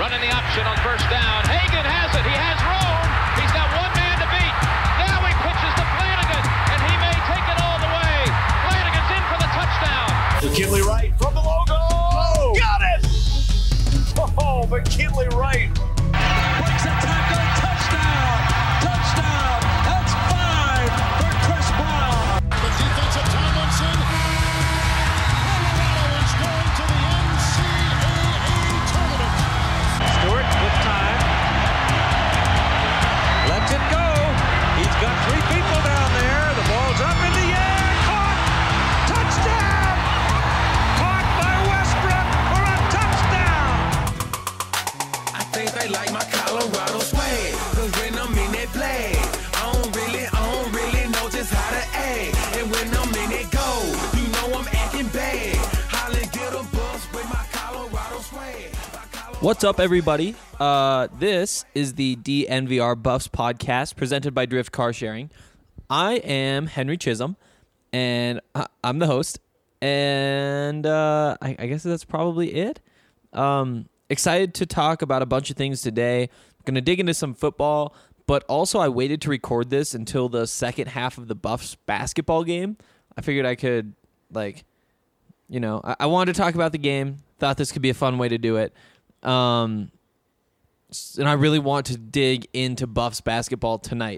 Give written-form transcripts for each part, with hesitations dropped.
Running the option on first down. Hagan has it. He has room. He's got one man to beat. Now he pitches to Flanagan, and he may take it all the way. Flanagan's in for the touchdown. McKinley Wright from the logo. Oh, got it! Oh, McKinley Wright. Breaks a tackle. Touchdown. Touchdown. That's 5 for Chris Brown. The defensive Tomlinson. Colorado is going to the NCAA tournament. Stewart with time. Lets it go. He's got 3 people down there. The ball's up in the air. Caught. Touchdown. Caught by Westbrook for a touchdown. I think they like my Colorado swag, 'cause when I'm in that play, I don't really know just how to act. And when I'm in it go, you know I'm acting bad. Holland get a bus with my Colorado swag. What's up, everybody? This is the DNVR Buffs podcast presented by Drift Car Sharing. I am Henry Chisholm, and I'm the host. And I guess that's probably it. Excited to talk about a bunch of things today. I'm going to dig into some football, but also I waited to record this until the second half of the Buffs basketball game. I figured I could, I wanted to talk about the game. Thought this could be a fun way to do it. And I really want to dig into Buffs basketball tonight.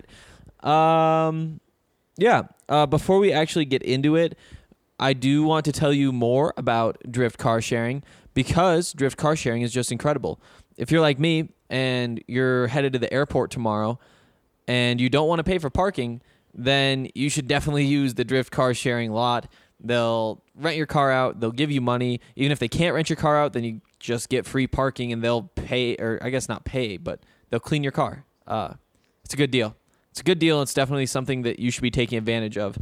Before we actually get into it, I do want to tell you more about Drift Car Sharing, because Drift Car Sharing is just incredible. If you're like me and you're headed to the airport tomorrow and you don't want to pay for parking, then you should definitely use the Drift Car Sharing lot. They'll rent your car out. They'll give you money. Even if they can't rent your car out, then you just get free parking and they'll pay, or I guess not pay, but they'll clean your car. It's a good deal. It's a good deal. It's definitely something that you should be taking advantage of.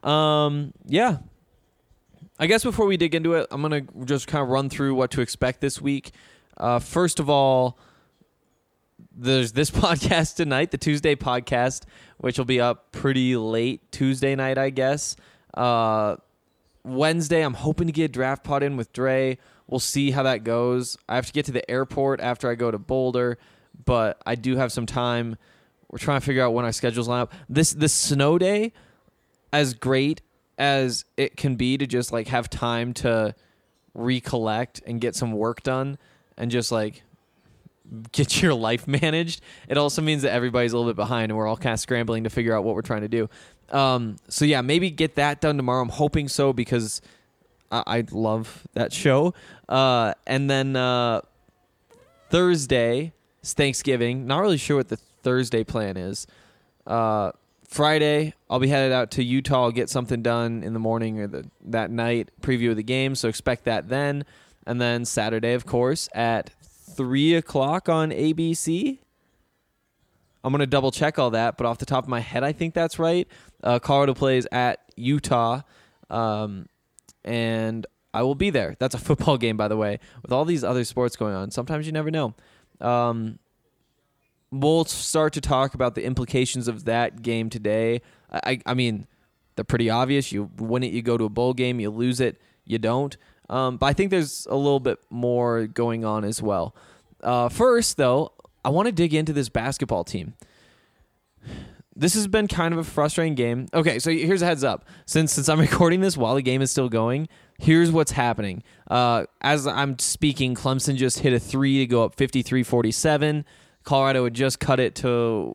I guess before we dig into it, I'm going to just kind of run through what to expect this week. First of all, there's this podcast tonight, the Tuesday podcast, which will be up pretty late Tuesday night, I guess. Wednesday, I'm hoping to get Draft Pod in with Dre. We'll see how that goes. I have to get to the airport after I go to Boulder, but I do have some time. We're trying to figure out when our schedules line up. This snow day, as great as it can be to just have time to recollect and get some work done and just get your life managed, it also means that everybody's a little bit behind and we're all kind of scrambling to figure out what we're trying to do. Maybe get that done tomorrow. I'm hoping so, because I love that show. And then Thursday is Thanksgiving. Not really sure what the Thursday plan is. Friday, I'll be headed out to Utah. I'll get something done in the morning or that night, preview of the game, so expect that then. And then Saturday, of course, at 3 o'clock on ABC. I'm going to double-check all that, but off the top of my head, I think that's right. Colorado plays at Utah, and I will be there. That's a football game, by the way. With all these other sports going on, sometimes you never know. We'll start to talk about the implications of that game today. I mean, they're pretty obvious. You win it, you go to a bowl game. You lose it, you don't. But I think there's a little bit more going on as well. First, though, I want to dig into this basketball team. This has been kind of a frustrating game. Okay, so here's a heads up. Since I'm recording this while the game is still going, here's what's happening. As I'm speaking, Clemson just hit a 3 to go up 53-47. Colorado had just cut it to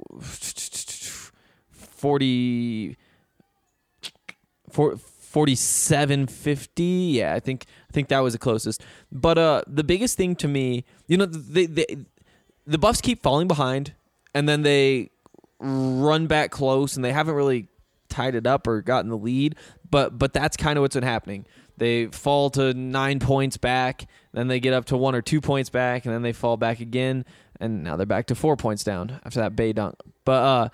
47-50. Yeah, I think that was the closest. But the biggest thing to me, the Buffs keep falling behind, and then they run back close, and they haven't really tied it up or gotten the lead. But that's kind of what's been happening. They fall to 9 points back, then they get up to 1 or 2 points back, and then they fall back again, and now they're back to 4 points down after that Bay dunk. But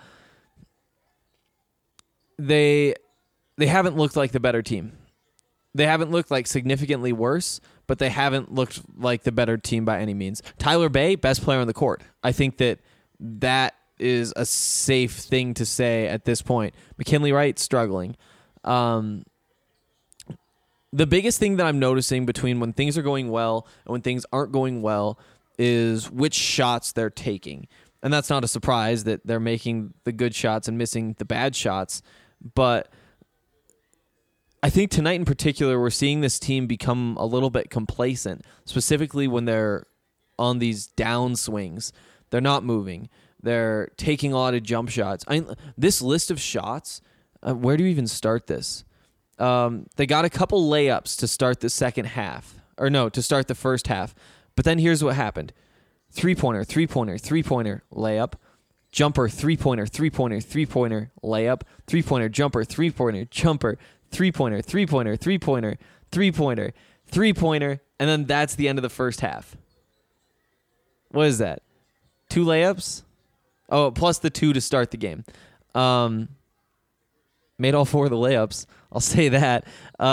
they haven't looked like the better team. They haven't looked like significantly worse, but they haven't looked like the better team by any means. Tyler Bay, best player on the court. I think that is a safe thing to say at this point. McKinley Wright, struggling. The biggest thing that I'm noticing between when things are going well and when things aren't going well is which shots they're taking. And that's not a surprise that they're making the good shots and missing the bad shots. But I think tonight in particular, we're seeing this team become a little bit complacent, specifically when they're on these downswings. They're not moving. They're taking a lot of jump shots. This list of shots, where do you even start this? They got a couple layups to start the second half. Or no, to start the first half. But then here's what happened. Three-pointer, three-pointer, three-pointer, layup. Jumper, three-pointer, three-pointer, three-pointer, layup. Three-pointer, jumper, three-pointer, jumper. Three-pointer, three-pointer, three-pointer, three-pointer, three-pointer. And then that's the end of the first half. What is that? 2 layups? Oh, plus the 2 to start the game. Made all 4 of the layups. I'll say that.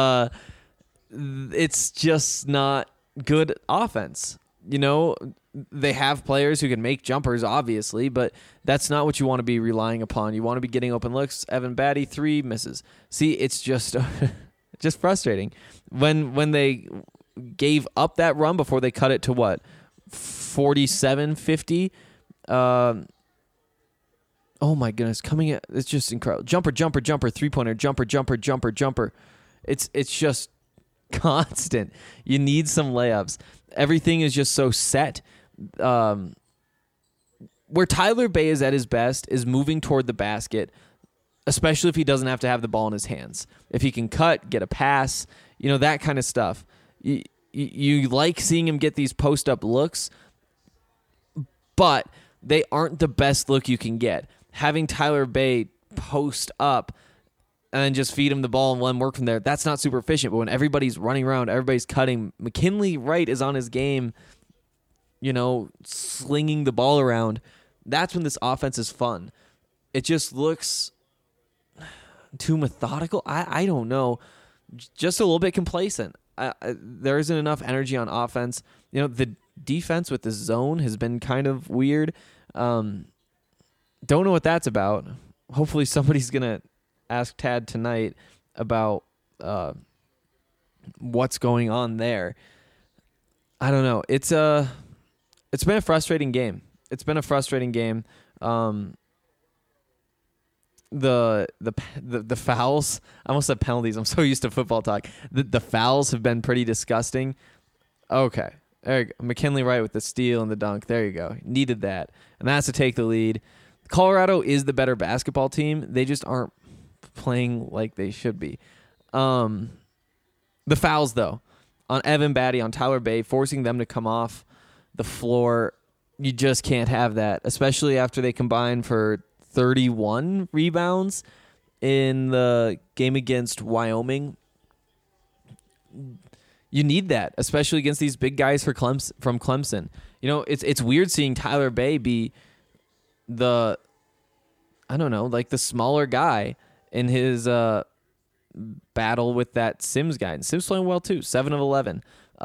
It's just not good offense. You know, they have players who can make jumpers, obviously, but that's not what you want to be relying upon. You want to be getting open looks. Evan Batty, 3 misses. See, it's just just frustrating. When they gave up that run before they cut it to what? 47-50. Oh my goodness, coming at it's just incredible. Jumper, jumper, jumper, three-pointer, jumper, jumper, jumper, jumper. It's just constant. You need some layups. Everything is just so set. Where Tyler Bay is at his best is moving toward the basket, especially if he doesn't have to have the ball in his hands. If he can cut, get a pass, that kind of stuff. You like seeing him get these post-up looks, but they aren't the best look you can get. Having Tyler Bay post up and then just feed him the ball and let him work from there, that's not super efficient. But when everybody's running around, everybody's cutting, McKinley Wright is on his game, slinging the ball around, that's when this offense is fun. It just looks too methodical. I don't know. Just a little bit complacent. There isn't enough energy on offense. The defense with the zone has been kind of weird. Don't know what that's about. Hopefully somebody's going to ask Tad tonight about what's going on there. I don't know. It's been a frustrating game. The fouls, I almost said penalties. I'm so used to football talk. The fouls have been pretty disgusting. Okay. There you go. McKinley Wright with the steal and the dunk. There you go. Needed that. And that's to take the lead. Colorado is the better basketball team. They just aren't playing like they should be. The fouls, though, on Evan Batty, on Tyler Bay, forcing them to come off the floor, you just can't have that, especially after they combine for 31 rebounds in the game against Wyoming. You need that, especially against these big guys from Clemson. It's weird seeing Tyler Bay be the smaller guy in his battle with that Sims guy. And Sims playing well too, 7 of 11.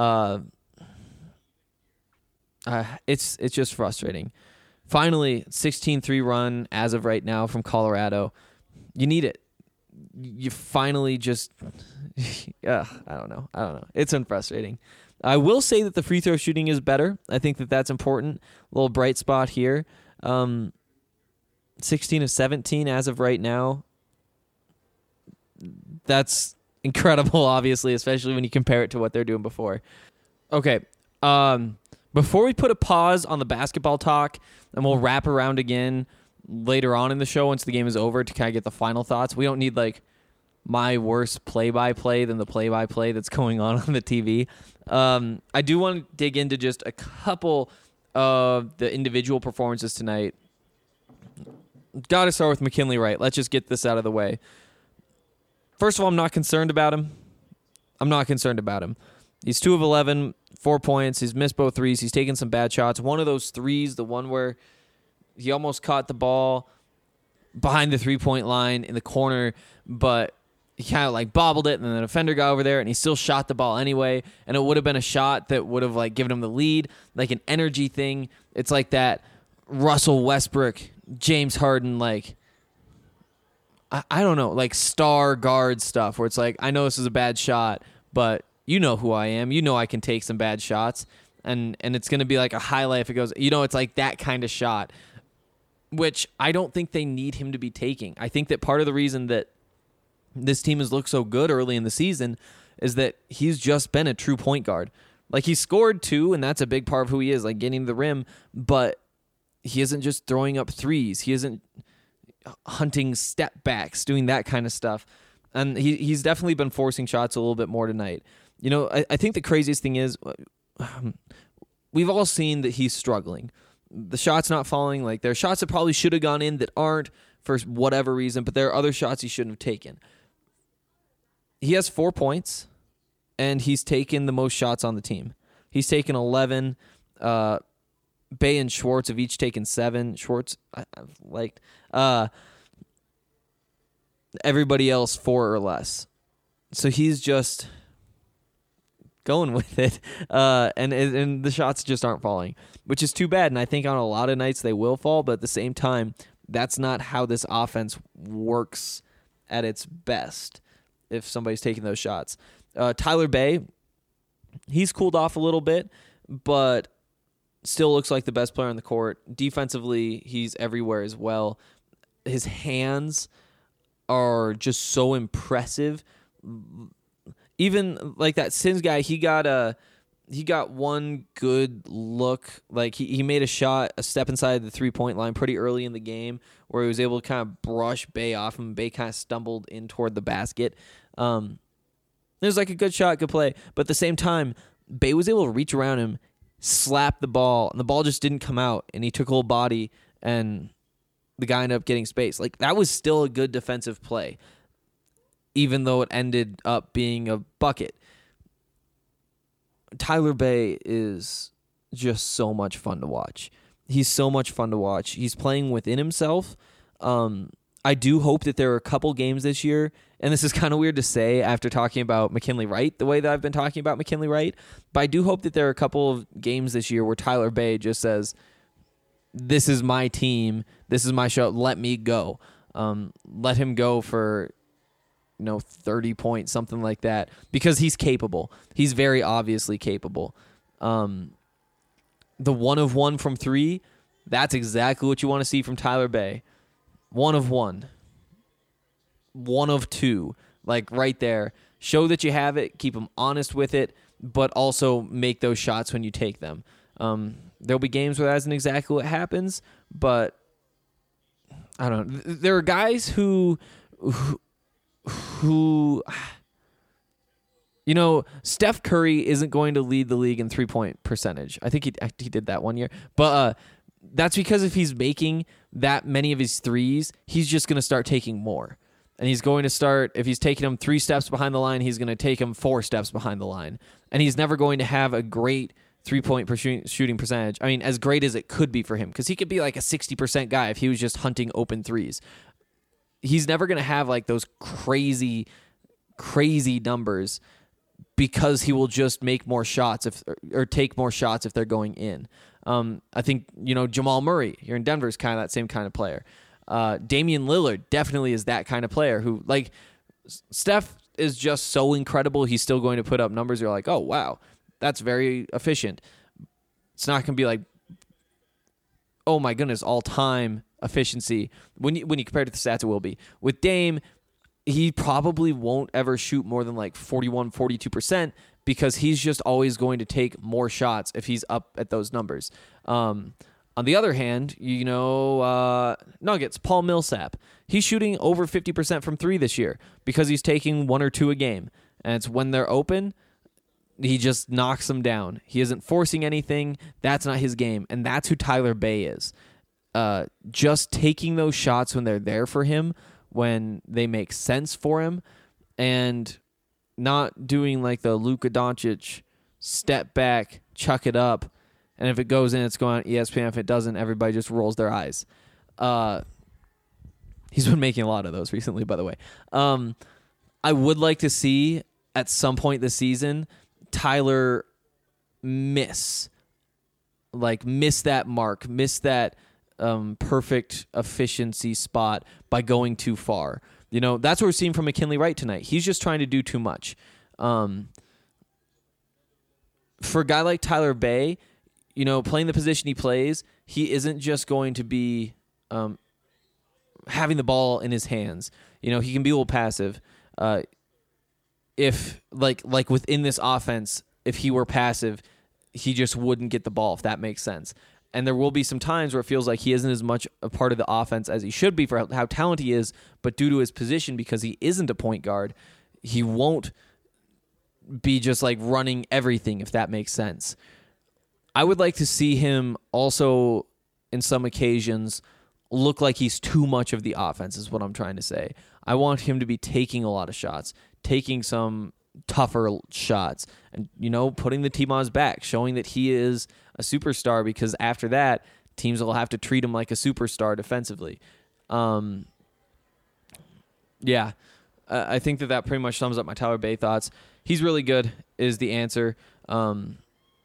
It's just frustrating. Finally, 16-3 run as of right now from Colorado. You need it. You finally just... I don't know. It's been frustrating. I will say that the free throw shooting is better. I think that's important. A little bright spot here. 16 of 17 as of right now. That's incredible, obviously, especially when you compare it to what they're doing before. Okay. Before we put a pause on the basketball talk, and we'll wrap around again later on in the show once the game is over to kind of get the final thoughts. We don't need my worse play-by-play than the play-by-play that's going on the TV. I do want to dig into just a couple of the individual performances tonight. Got to start with McKinley Wright. Let's just get this out of the way. First of all, I'm not concerned about him. He's 2 of 11, 4 points. He's missed both threes. He's taken some bad shots. One of those threes, the one where he almost caught the ball behind the three-point line in the corner, but he kind of bobbled it, and then the defender got over there, and he still shot the ball anyway, and it would have been a shot that would have given him the lead, like an energy thing. It's like that Russell Westbrook, James Harden, I don't know, star guard stuff where it's I know this is a bad shot, but you know who I am. You know I can take some bad shots. and it's going to be like a highlight if it goes, it's like that kind of shot, which I don't think they need him to be taking. I think that part of the reason that this team has looked so good early in the season is that he's just been a true point guard. Like, he scored 2, and that's a big part of who he is, like getting to the rim, but he isn't just throwing up threes. He isn't hunting step backs, doing that kind of stuff. And he's definitely been forcing shots a little bit more tonight. I think the craziest thing is we've all seen that he's struggling. The shot's not falling. Like, there are shots that probably should have gone in that aren't for whatever reason, but there are other shots he shouldn't have taken. He has 4 points, and he's taken the most shots on the team. He's taken 11. Bay and Schwartz have each taken 7. Schwartz, I've liked. Everybody else 4 or less. So he's just going with it, and the shots just aren't falling, which is too bad. And I think on a lot of nights they will fall, but at the same time, that's not how this offense works at its best if somebody's taking those shots. Tyler Bay, he's cooled off a little bit, but still looks like the best player on the court. Defensively, he's everywhere as well. His hands are just so impressive. Even like that Sims guy, he got one good look. Like, he made a step inside the 3-point line pretty early in the game where he was able to kind of brush Bay off him. Bay kind of stumbled in toward the basket. It was like a good shot, good play. But at the same time, Bay was able to reach around him, slap the ball, and the ball just didn't come out. And he took a little body, and the guy ended up getting space. Like, that was still a good defensive play, even though it ended up being a bucket. Tyler Bay is just so much fun to watch. He's so much fun to watch. He's playing within himself. I do hope that there are a couple games this year, and this is kind of weird to say after talking about McKinley Wright the way that I've been talking about McKinley Wright, but I do hope that there are a couple of games this year where Tyler Bay just says, this is my team, this is my show, let me go. Let him go for 30 points, something like that, because he's capable. He's very obviously capable. The 1 of 1 from 3, that's exactly what you want to see from Tyler Bay. 1 of 1. 1 of 2. Like, right there. Show that you have it, keep them honest with it, but also make those shots when you take them. There'll be games where that isn't exactly what happens, but I don't know. There are guys who Steph Curry isn't going to lead the league in 3-point percentage. I think he did that one year. But that's because if he's making that many of his threes, he's just going to start taking more. And he's going to start, if he's taking them 3 steps behind the line, he's going to take them 4 steps behind the line. And he's never going to have a great 3-point shooting percentage. I mean, as great as it could be for him, because he could be like a 60% guy if he was just hunting open threes. He's never going to have like those crazy numbers because he will just make more shots or take more shots if they're going in. I think, Jamal Murray here in Denver is kind of that same kind of player. Damian Lillard definitely is that kind of player who, like, Steph is just so incredible. He's still going to put up numbers. You're like, oh, wow, that's very efficient. It's not going to be like, oh my goodness, all-time efficiency. When you compare it to the stats, it will be. With Dame, he probably won't ever shoot more than like 41, 42% because he's just always going to take more shots if he's up at those numbers. On the other hand, Nuggets, Paul Millsap, he's shooting over 50% from 3 this year because he's taking 1 or 2 a game. And it's when they're open, he just knocks them down. He isn't forcing anything. That's not his game. And that's who Tyler Bay is. Just taking those shots when they're there for him, when they make sense for him, and not doing like the Luka Doncic step back, chuck it up, and if it goes in, it's going on ESPN. If it doesn't, everybody just rolls their eyes. He's been making a lot of those recently, by the way. I would like to see at some point this season Tyler miss that mark, miss that perfect efficiency spot by going too far. That's what we're seeing from McKinley Wright tonight. He's just trying to do too much. for a guy like Tyler Bay, playing the position he plays, he isn't just going to be having the ball in his hands. He can be a little passive. If like within this offense, if he were passive, he just wouldn't get the ball, if that makes sense. And there will be some times where it feels like he isn't as much a part of the offense as he should be for how talented he is, but due to his position, because he isn't a point guard, he won't be just like running everything, if that makes sense. I would like to see him also, in some occasions, look like he's too much of the offense, is what I'm trying to say. I want him to be taking a lot of shots, taking some tougher shots, and, putting the team on his back, showing that he is a superstar, because after that, teams will have to treat him like a superstar defensively. I think that pretty much sums up my Tyler Bay thoughts. He's really good is the answer. And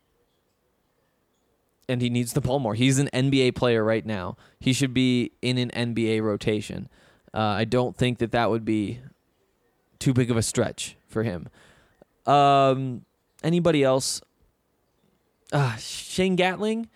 he needs the ball more. He's an NBA player right now. He should be in an NBA rotation. I don't think that would be too big of a stretch for him. Anybody else? Shane Gatling.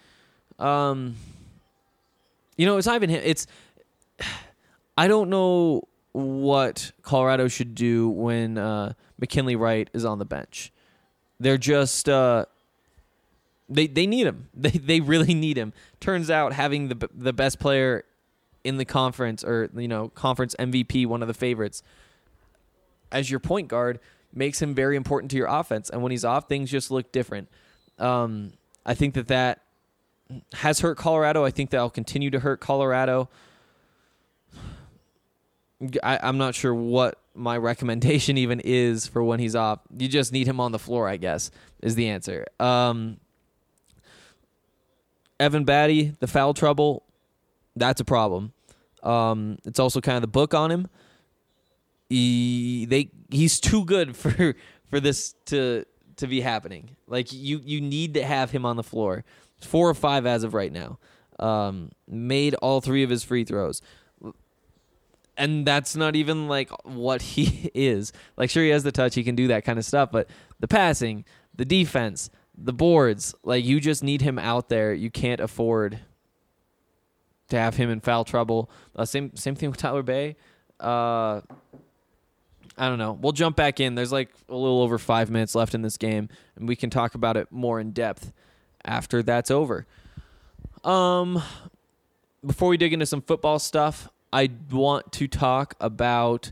It's not even him. I don't know what Colorado should do when McKinley Wright is on the bench. They're just they need him. They really need him. Turns out having the best player in the conference, or conference MVP, one of the favorites, as your point guard makes him very important to your offense. And when he's off, things just look different. I think that has hurt Colorado. I think that'll continue to hurt Colorado. I'm not sure what my recommendation even is for when he's off. You just need him on the floor, I guess, is the answer. Evan Batty, the foul trouble, that's a problem. It's also kind of the book on him. He's too good for this to be happening. Like, you need to have him on the floor. 4 or 5 as of right now. Made all 3 of his free throws. And that's not even like what he is. Like, sure, he has the touch, he can do that kind of stuff, but the passing, the defense, the boards, like, you just need him out there. You can't afford to have him in foul trouble. Same thing with Tyler Bay. I don't know. We'll jump back in. There's like a little over 5 minutes left in this game, and we can talk about it more in depth after that's over. Before we dig into some football stuff, I want to talk about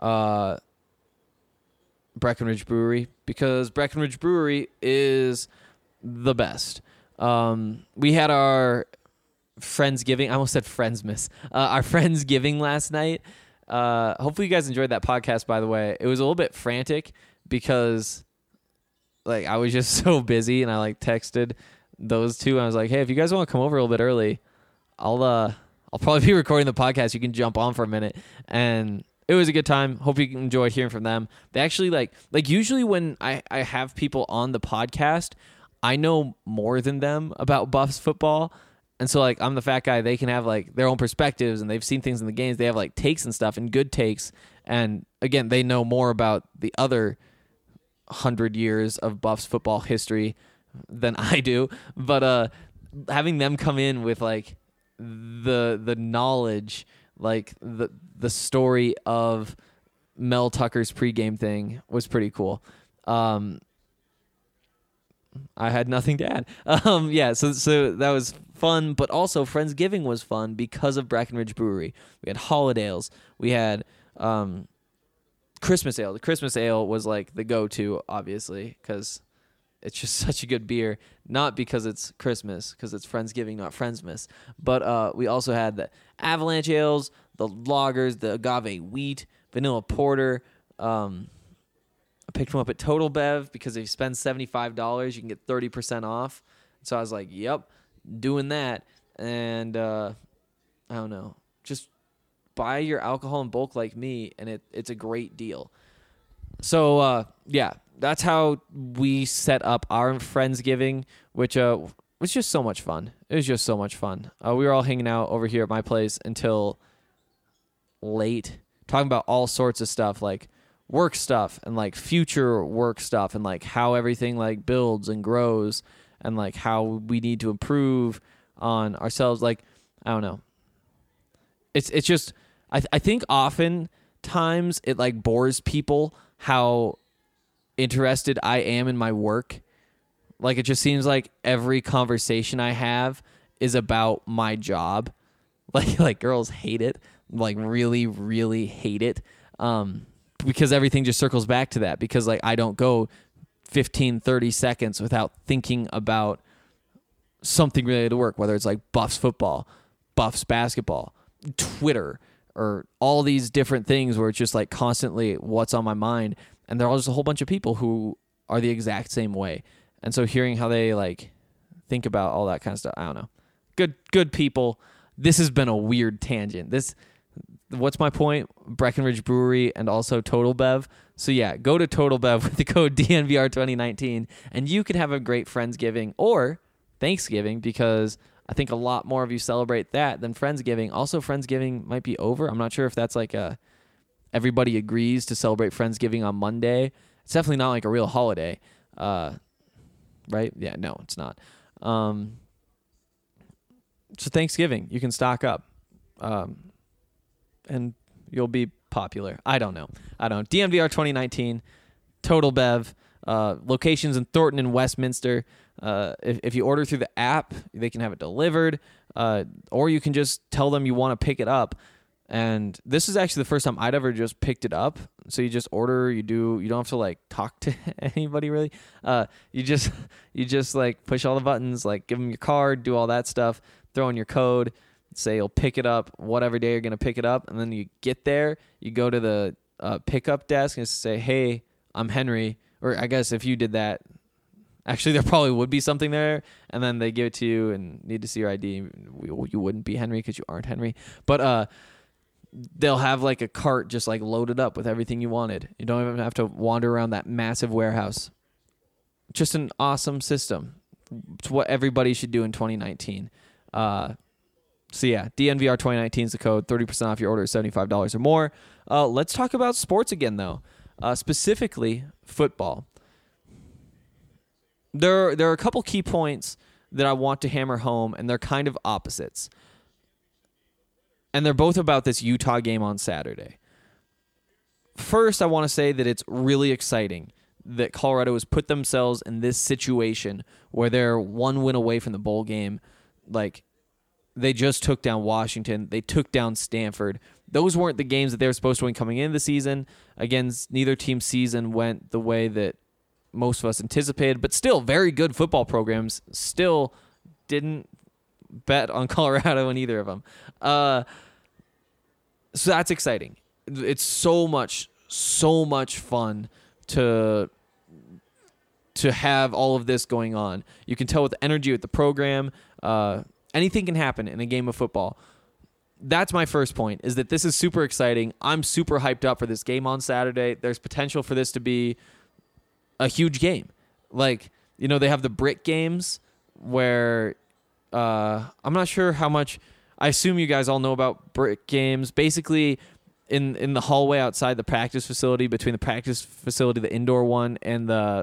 Breckenridge Brewery, because Breckenridge Brewery is the best. We had our Friendsgiving. I almost said Friendsmas. Our Friendsgiving last night. Hopefully you guys enjoyed that podcast, by the way. It was a little bit frantic because like I was just so busy, and I like texted those two. And I was like, hey, if you guys want to come over a little bit early, I'll probably be recording the podcast. You can jump on for a minute. And it was a good time. Hope you enjoyed hearing from them. They actually like usually when I have people on the podcast, I know more than them about Buffs football. And so like I'm the fat guy. They can have like their own perspectives, and they've seen things in the games. They have like takes and stuff, and good takes. And again, they know more about the other 100 years of Buffs football history than I do. But having them come in with like the knowledge, like the story of Mel Tucker's pregame thing was pretty cool. I had nothing to add. So that was fun, but also Friendsgiving was fun because of Breckenridge Brewery. We had Holidays. We had Christmas Ale. The Christmas Ale was like the go-to, obviously, because it's just such a good beer. Not because it's Christmas, because it's Friendsgiving, not Friendsmas. But we also had the Avalanche Ales, the Lagers, the Agave Wheat, Vanilla Porter. I picked them up at Total Bev because if you spend $75, you can get 30% off. So I was like, yep, doing that. And I don't know, just buy your alcohol in bulk like me, and it's a great deal. So, that's how we set up our Friendsgiving, which was just so much fun. It was just so much fun. We were all hanging out over here at my place until late, talking about all sorts of stuff like work stuff and like future work stuff and like how everything like builds and grows and like how we need to improve on ourselves. Like, I don't know. It's just, I think oftentimes it like bores people how interested I am in my work. Like, it just seems like every conversation I have is about my job. Like girls hate it, like really, really hate it. Because everything just circles back to that, because like I don't go 15, 30 seconds without thinking about something related to work, whether it's like Buffs football, Buffs basketball, Twitter, or all these different things where it's just like constantly what's on my mind. And there are just a whole bunch of people who are the exact same way. And so hearing how they like think about all that kind of stuff, I don't know. Good people. This has been a weird tangent. What's my point? Breckenridge Brewery and also Total Bev. So yeah, go to Total Bev with the code DNVR2019 and you can have a great Friendsgiving or Thanksgiving, because I think a lot more of you celebrate that than Friendsgiving. Also, Friendsgiving might be over. I'm not sure if that's like everybody agrees to celebrate Friendsgiving on Monday. It's definitely not like a real holiday. Right? Yeah, no, it's not. So Thanksgiving, you can stock up. And you'll be popular. I don't know. DNVR 2019, Total Bev, locations in Thornton and Westminster. If you order through the app, they can have it delivered, or you can just tell them you want to pick it up. And this is actually the first time I'd ever just picked it up. So you just order, you don't have to like talk to anybody really. You just like push all the buttons, like give them your card, do all that stuff, throw in your code, say you'll pick it up whatever day you're going to pick it up. And then you get there, you go to the pickup desk and say, hey, I'm Henry. Or I guess if you did that, actually there probably would be something there. And then they give it to you and need to see your ID. You wouldn't be Henry because you aren't Henry. But they'll have like a cart just like loaded up with everything you wanted. You don't even have to wander around that massive warehouse. Just an awesome system. It's what everybody should do in 2019. So yeah, DNVR 2019 is the code. 30% off your order is $75 or more. Let's talk about sports again, though. Specifically, football. There are a couple key points that I want to hammer home, and they're kind of opposites. And they're both about this Utah game on Saturday. First, I want to say that it's really exciting that Colorado has put themselves in this situation where they're one win away from the bowl game. Like, they just took down Washington. They took down Stanford. Those weren't the games that they were supposed to win coming into the season. Again, neither team's season went the way that most of us anticipated, but still very good football programs. Still didn't bet on Colorado in either of them. So that's exciting. It's so much fun to have all of this going on. You can tell with the energy with the program. Anything can happen in a game of football. That's my first point, is that this is super exciting. I'm super hyped up for this game on Saturday. There's potential for this to be a huge game. Like, you know, they have the brick games where I'm not sure how much. I assume you guys all know about brick games. Basically, in the hallway outside the practice facility, between the practice facility, the indoor one, and the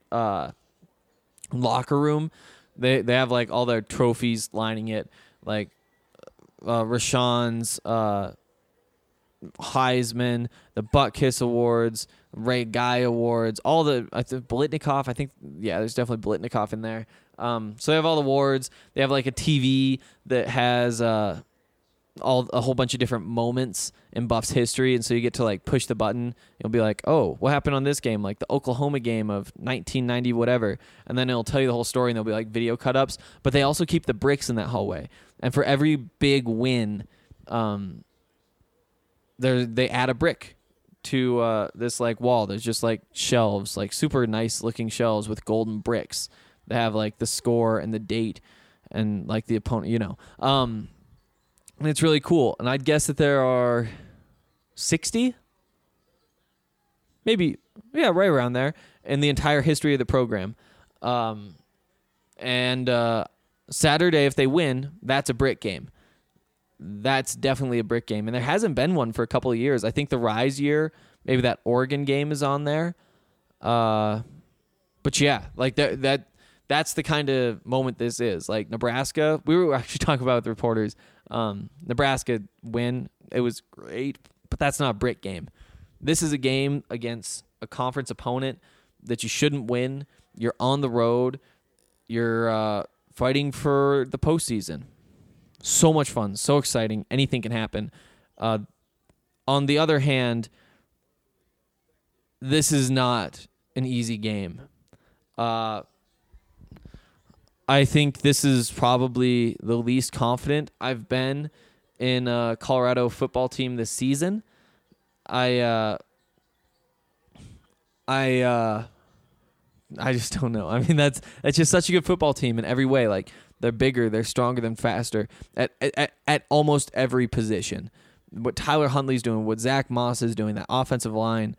locker room, they have like all their trophies lining it, like Rashawn's Heisman, the Butt Kiss Awards, Ray Guy Awards, all the Blitnikoff. I think there's definitely Blitnikoff in there. So they have all the awards. They have like a TV that has a whole bunch of different moments in Buffs history, and so you get to like push the button. You'll be like, oh, what happened on this game? Like the Oklahoma game of 1990, whatever. And then it'll tell you the whole story, and there'll be like video cut-ups. But they also keep the bricks in that hallway. And for every big win, they add a brick to this like wall. There's just like shelves, like super nice looking shelves with golden bricks. They have like the score and the date and like the opponent, you know. And it's really cool. And I'd guess that there are 60, maybe, yeah, right around there in the entire history of the program. And Saturday, if they win, that's a brick game. That's definitely a brick game. And there hasn't been one for a couple of years. I think the Rise year maybe that Oregon game is on there. But yeah, like that's the kind of moment this is. Like Nebraska, we were actually talking about with the reporters. Nebraska win, it was great, but that's not a Brit game. This is a game against a conference opponent that you shouldn't win. You're on the road. You're fighting for the postseason. So much fun, so exciting. Anything can happen. On the other hand, this is not an easy game. I think this is probably the least confident I've been in a Colorado football team this season. I just don't know. I mean, that's just such a good football team in every way. Like, they're bigger, they're stronger, than faster at almost every position. What Tyler Huntley's doing, what Zach Moss is doing, that offensive line.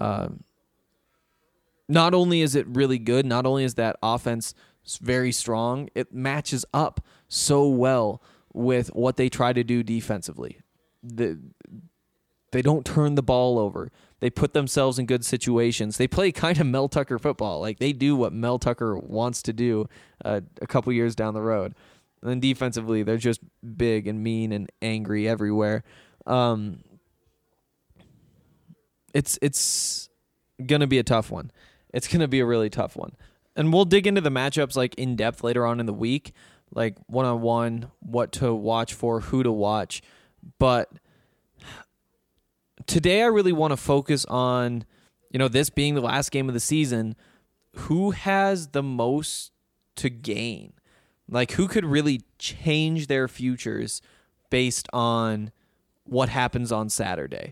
Not only is it really good, not only is that offense very strong, it matches up so well with what they try to do defensively. They don't turn the ball over. They put themselves in good situations. They play kind of Mel Tucker football. Like, they do what Mel Tucker wants to do a couple years down the road. And then defensively, they're just big and mean and angry everywhere. It's going to be a tough one. It's going to be a really tough one. And we'll dig into the matchups like in depth later on in the week, like one-on-one, what to watch for, who to watch. But today I really want to focus on, this being the last game of the season, who has the most to gain? Like, who could really change their futures based on what happens on Saturday?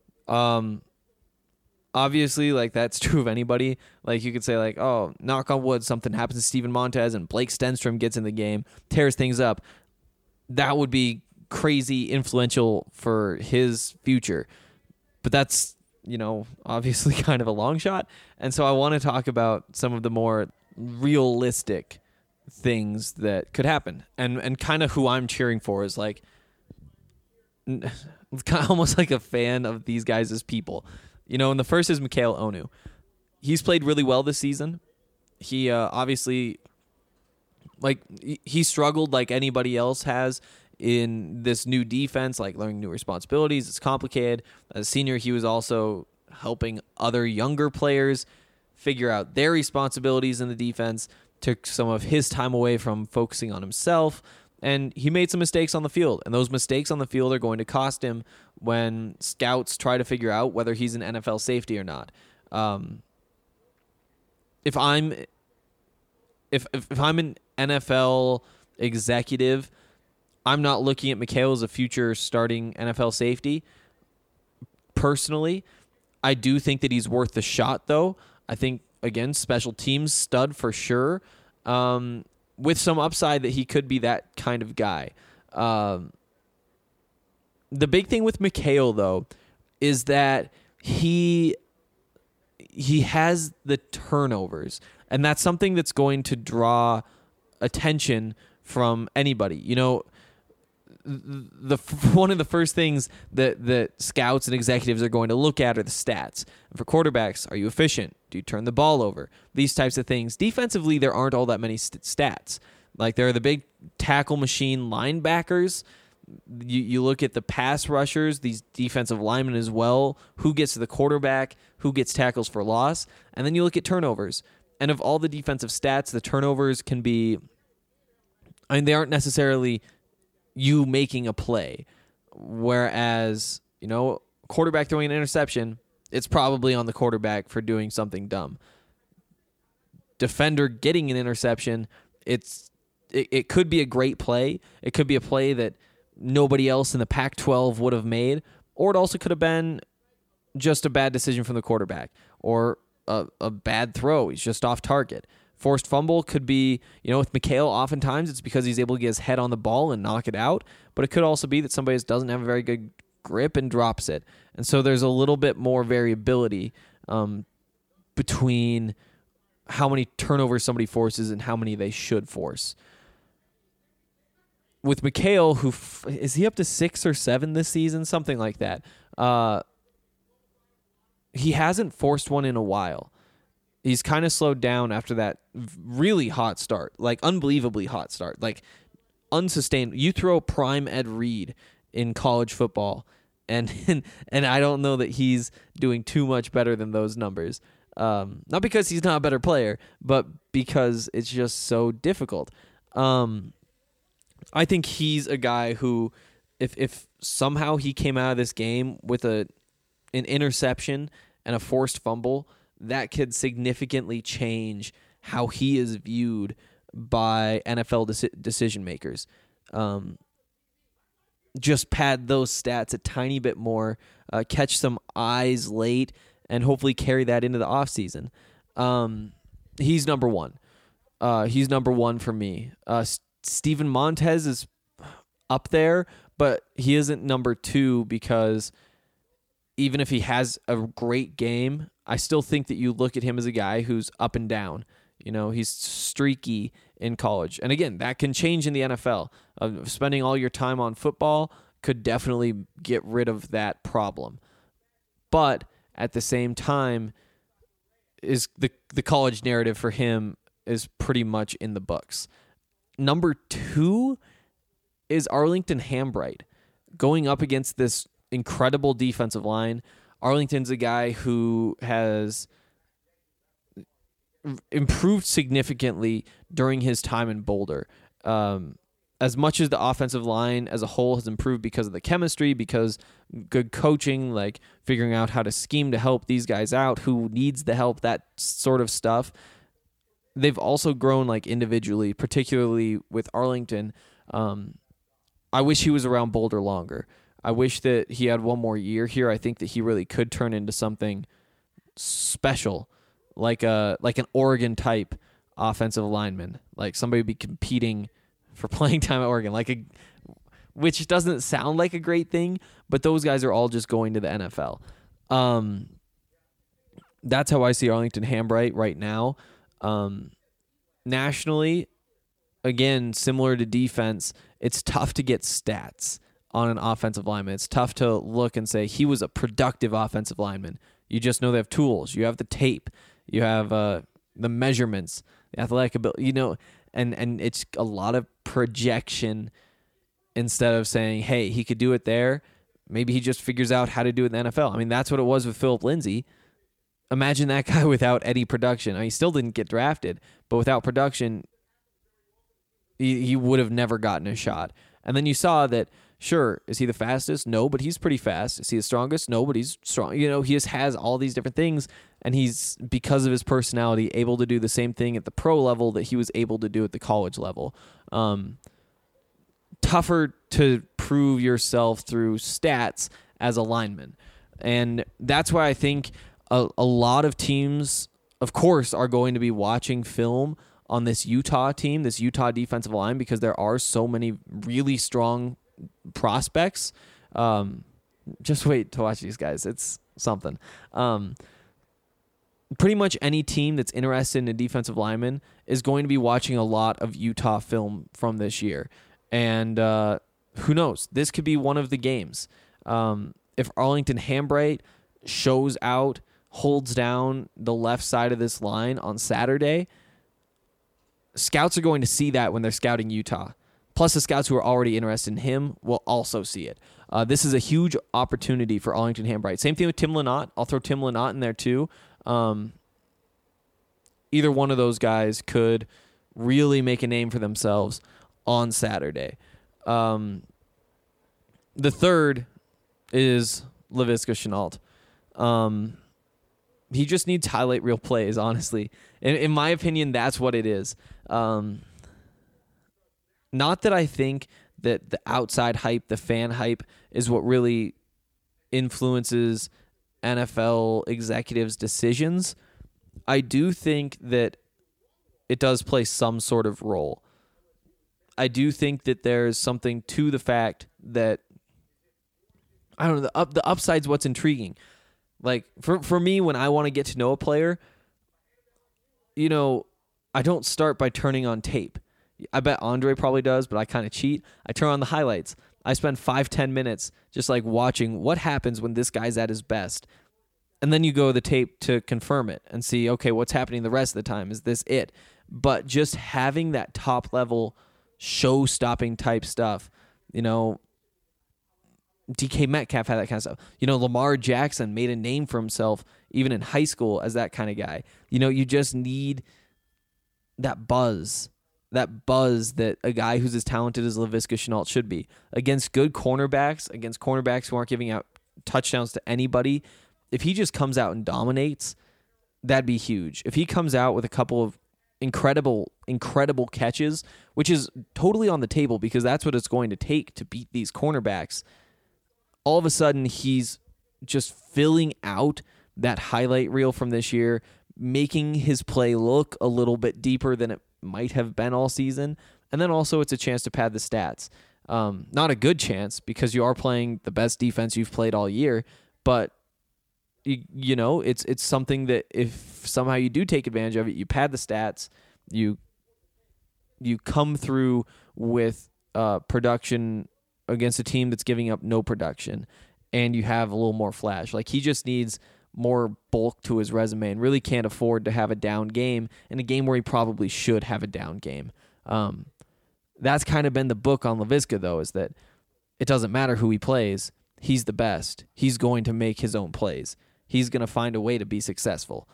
Obviously, like, that's true of anybody. Like, you could say, like, oh, knock on wood, something happens to Steven Montez and Blake Stenstrom gets in the game, tears things up. That would be crazy influential for his future. But that's, obviously kind of a long shot. And so I want to talk about some of the more realistic things that could happen. And kind of who I'm cheering for is, like, kind of almost like a fan of these guys as people. And the first is Mikhail Onu. He's played really well this season. He obviously, like, he struggled like anybody else has in this new defense, like learning new responsibilities. It's complicated. As a senior, he was also helping other younger players figure out their responsibilities in the defense, took some of his time away from focusing on himself, and he made some mistakes on the field. And those mistakes on the field are going to cost him when scouts try to figure out whether he's an NFL safety or not. If I'm an NFL executive, I'm not looking at Mikhail as a future starting NFL safety. Personally, I do think that he's worth the shot, though. I think, again, special teams stud for sure, with some upside that he could be that kind of guy. The big thing with Mikhail, though, is that he has the turnovers, and that's something that's going to draw attention from anybody. One of the first things that scouts and executives are going to look at are the stats. And for quarterbacks, are you efficient? Do you turn the ball over? These types of things. Defensively, there aren't all that many stats. Like, there are the big tackle machine linebackers. You look at the pass rushers, these defensive linemen as well, who gets to the quarterback, who gets tackles for loss, and then you look at turnovers. And of all the defensive stats, the turnovers can be, they aren't necessarily you making a play. Whereas, quarterback throwing an interception, it's probably on the quarterback for doing something dumb. Defender getting an interception, it could be a great play. It could be a play that nobody else in the Pac-12 would have made, or it also could have been just a bad decision from the quarterback, or a bad throw. He's just off target. Forced fumble could be, with Mikhail, oftentimes it's because he's able to get his head on the ball and knock it out, but it could also be that somebody just doesn't have a very good grip and drops it. And so there's a little bit more variability between how many turnovers somebody forces and how many they should force. With Mikhail, is he up to 6 or 7 this season? Something like that. he hasn't forced one in a while. He's kind of slowed down after that really hot start, like unbelievably hot start, like unsustained. You throw prime Ed Reed in college football, and I don't know that he's doing too much better than those numbers. Not because he's not a better player, but because it's just so difficult. I think he's a guy who, if somehow he came out of this game with an interception and a forced fumble, that could significantly change how he is viewed by NFL decision makers. Just pad those stats a tiny bit more, catch some eyes late, and hopefully carry that into the offseason. He's number one. He's number one for me. Steven Montez is up there, but he isn't number two because even if he has a great game, I still think that you look at him as a guy who's up and down. He's streaky in college. And again, that can change in the NFL. Spending all your time on football could definitely get rid of that problem. But at the same time, is the college narrative for him is pretty much in the books. Number two is Arlington Hambright. Going up against this incredible defensive line, Arlington's a guy who has improved significantly during his time in Boulder. As much as the offensive line as a whole has improved because of the chemistry, because good coaching, like figuring out how to scheme to help these guys out, who needs the help, that sort of stuff. They've also grown like individually, particularly with Arlington. I wish he was around Boulder longer. I wish that he had one more year here. I think that he really could turn into something special, like an Oregon type offensive lineman, like somebody would be competing for playing time at Oregon, which doesn't sound like a great thing, but those guys are all just going to the NFL. That's how I see Arlington Hambright right now. Nationally, again, similar to defense, it's tough to get stats on an offensive lineman. It's tough to look and say he was a productive offensive lineman. You just know they have tools. You have the tape. You have the measurements, the athletic ability, and it's a lot of projection instead of saying, hey, he could do it there. Maybe he just figures out how to do it in the NFL. I mean, that's what it was with Philip Lindsay. Imagine that guy without any production. I mean, he still didn't get drafted, but without production, he would have never gotten a shot. And then you saw that, sure, is he the fastest? No, but he's pretty fast. Is he the strongest? No, but he's strong. He just has all these different things, and he's, because of his personality, able to do the same thing at the pro level that he was able to do at the college level. Tougher to prove yourself through stats as a lineman. And that's why I think a lot of teams, of course, are going to be watching film on this Utah team, this Utah defensive line, because there are so many really strong prospects. Just wait to watch these guys. It's something. Pretty much any team that's interested in a defensive lineman is going to be watching a lot of Utah film from this year. And who knows? This could be one of the games. If Arlington Hambright shows out, holds down the left side of this line on Saturday, scouts are going to see that when they're scouting Utah. Plus, the scouts who are already interested in him will also see it. This is a huge opportunity for Arlington Hambright. Same thing with Tim Lynott. I'll throw Tim Lynott in there too. Either one of those guys could really make a name for themselves on Saturday. The third is Laviska Shenault. He just needs highlight reel plays, honestly. In my opinion, that's what it is. Not that I think that the outside hype, the fan hype, is what really influences NFL executives' decisions. I do think that it does play some sort of role. I do think that there's something to the fact that, I don't know, the upside's what's intriguing. Like, for me, when I want to get to know a player, I don't start by turning on tape. I bet Andre probably does, but I kind of cheat. I turn on the highlights. I spend 5-10 minutes just like watching what happens when this guy's at his best. And then you go to the tape to confirm it and see, okay, what's happening the rest of the time? Is this it? But just having that top level show-stopping type stuff, DK Metcalf had that kind of stuff. Lamar Jackson made a name for himself even in high school as that kind of guy. You just need that buzz that a guy who's as talented as Laviska Shenault should be. Against good cornerbacks, against cornerbacks who aren't giving out touchdowns to anybody, if he just comes out and dominates, that'd be huge. If he comes out with a couple of incredible catches, which is totally on the table because that's what it's going to take to beat these cornerbacks, all of a sudden he's just filling out that highlight reel from this year, making his play look a little bit deeper than it might have been all season. And then also it's a chance to pad the stats. Not a good chance because you are playing the best defense you've played all year, but it's something that if somehow you do take advantage of it, you pad the stats, you come through with production against a team that's giving up no production, and you have a little more flash. Like, he just needs more bulk to his resume and really can't afford to have a down game in a game where he probably should have a down game. That's kind of been the book on Laviska, though, is that it doesn't matter who he plays. He's the best. He's going to make his own plays. He's going to find a way to be successful.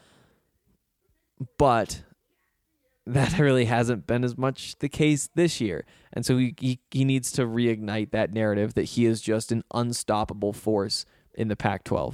But that really hasn't been as much the case this year. And so he needs to reignite that narrative that he is just an unstoppable force in the Pac-12.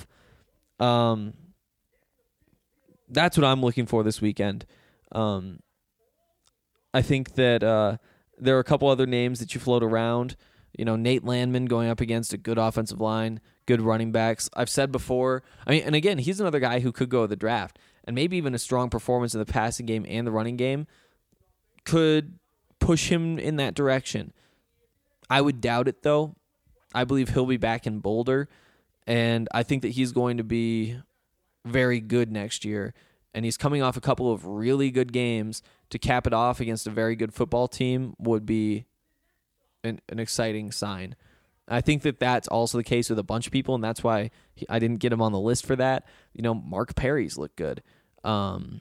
That's what I'm looking for this weekend. I think that there are a couple other names that you float around. Nate Landman going up against a good offensive line, good running backs. I've said before, and again, he's another guy who could go to the draft, and maybe even a strong performance in the passing game and the running game could push him in that direction. I would doubt it, though. I believe he'll be back in Boulder, and I think that he's going to be very good next year, and he's coming off a couple of really good games. To cap it off against a very good football team would be an exciting sign. I think that that's also the case with a bunch of people, and that's why I didn't get him on the list for that. Mark Perry's look good. Let's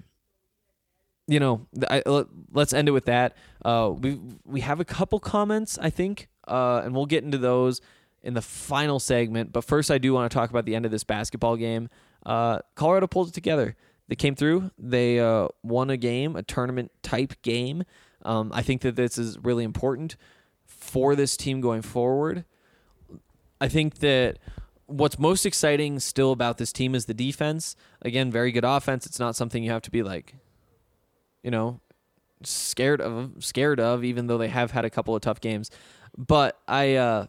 end it with that. We have a couple comments, I think, and we'll get into those in the final segment. But first, I do want to talk about the end of this basketball game. Colorado pulled it together. They came through. They won a game, a tournament-type game. I think that this is really important for this team going forward. I think that what's most exciting still about this team is the defense. Again, very good offense. It's not something you have to be scared of, even though they have had a couple of tough games. But I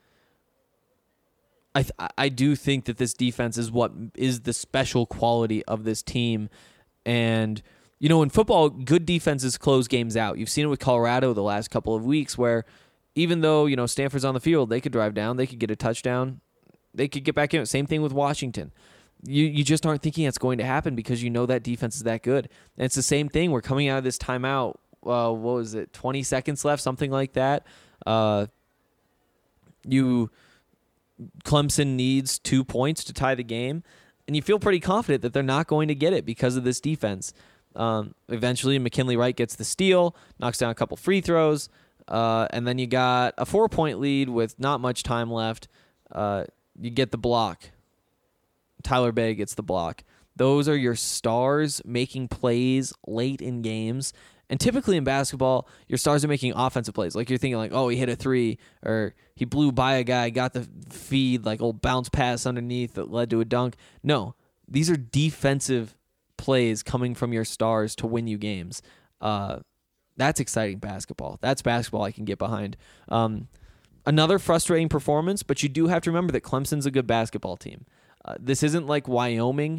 do think that this defense is what is the special quality of this team. And, in football, good defenses close games out. You've seen it with Colorado the last couple of weeks where even though, Stanford's on the field, they could drive down, they could get a touchdown, they could get back in. Same thing with Washington. You just aren't thinking it's going to happen because that defense is that good. And it's the same thing. We're coming out of this timeout, 20 seconds left, something like that. Clemson needs 2 points to tie the game, and you feel pretty confident that they're not going to get it because of this defense. Eventually, McKinley Wright gets the steal, knocks down a couple free throws, and then you got a 4-point lead with not much time left. You get the block. Tyler Bay gets the block. Those are your stars making plays late in games. And typically in basketball, your stars are making offensive plays. Like you're thinking he hit a three, or he blew by a guy, got the feed, old bounce pass underneath that led to a dunk. No, these are defensive plays coming from your stars to win you games. That's exciting basketball. That's basketball I can get behind. Another frustrating performance, but you do have to remember that Clemson's a good basketball team. This isn't like Wyoming,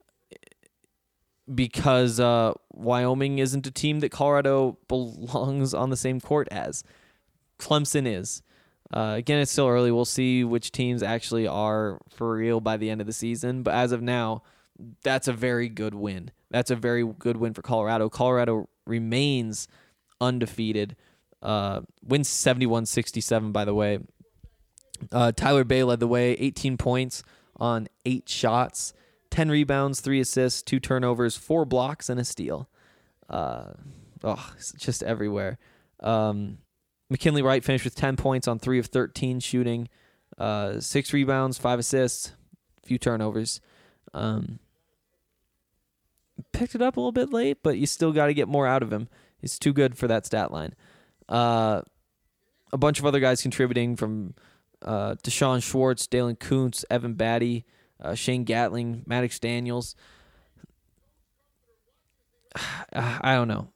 because Wyoming isn't a team that Colorado belongs on the same court as. Clemson is. Again, it's still early. We'll see which teams actually are for real by the end of the season. But as of now, that's a very good win. That's a very good win for Colorado. Colorado remains undefeated. Wins 71-67, by the way. Tyler Bay led the way, 18 points on 8 shots. 10 rebounds, 3 assists, 2 turnovers, 4 blocks, and a steal. It's just everywhere. McKinley Wright finished with 10 points on 3 of 13 shooting, 6 rebounds, 5 assists, a few turnovers. Picked it up a little bit late, but you still got to get more out of him. He's too good for that stat line. A bunch of other guys contributing from Deshaun Schwartz, Dalen Kuntz, Evan Batty, Shane Gatling, Maddox Daniels. I don't know.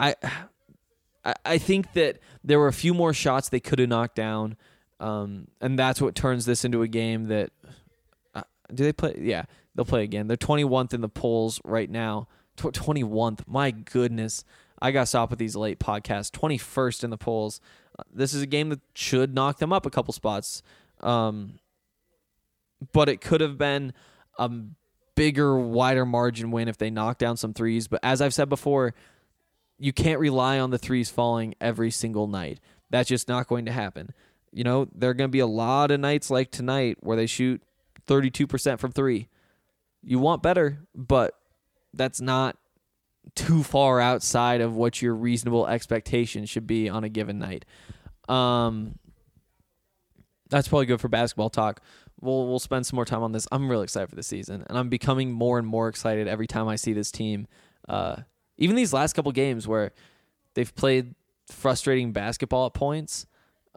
I think that there were a few more shots they could have knocked down, and that's what turns this into a game that do they play? Yeah, they'll play again. They're 21th in the polls right now. 21th. My goodness. I got to stop with these late podcasts. 21st in the polls. This is a game that should knock them up a couple spots. But it could have been a bigger, wider margin win if they knocked down some threes. But as I've said before, you can't rely on the threes falling every single night. That's just not going to happen. You know, there are going to be a lot of nights like tonight where they shoot 32% from 3. You want better, but that's not too far outside of what your reasonable expectation should be on a given night. That's probably good for basketball talk. We'll spend some more time on this. I'm really excited for the season, and I'm becoming more and more excited every time I see this team. Even these last couple games where they've played frustrating basketball at points,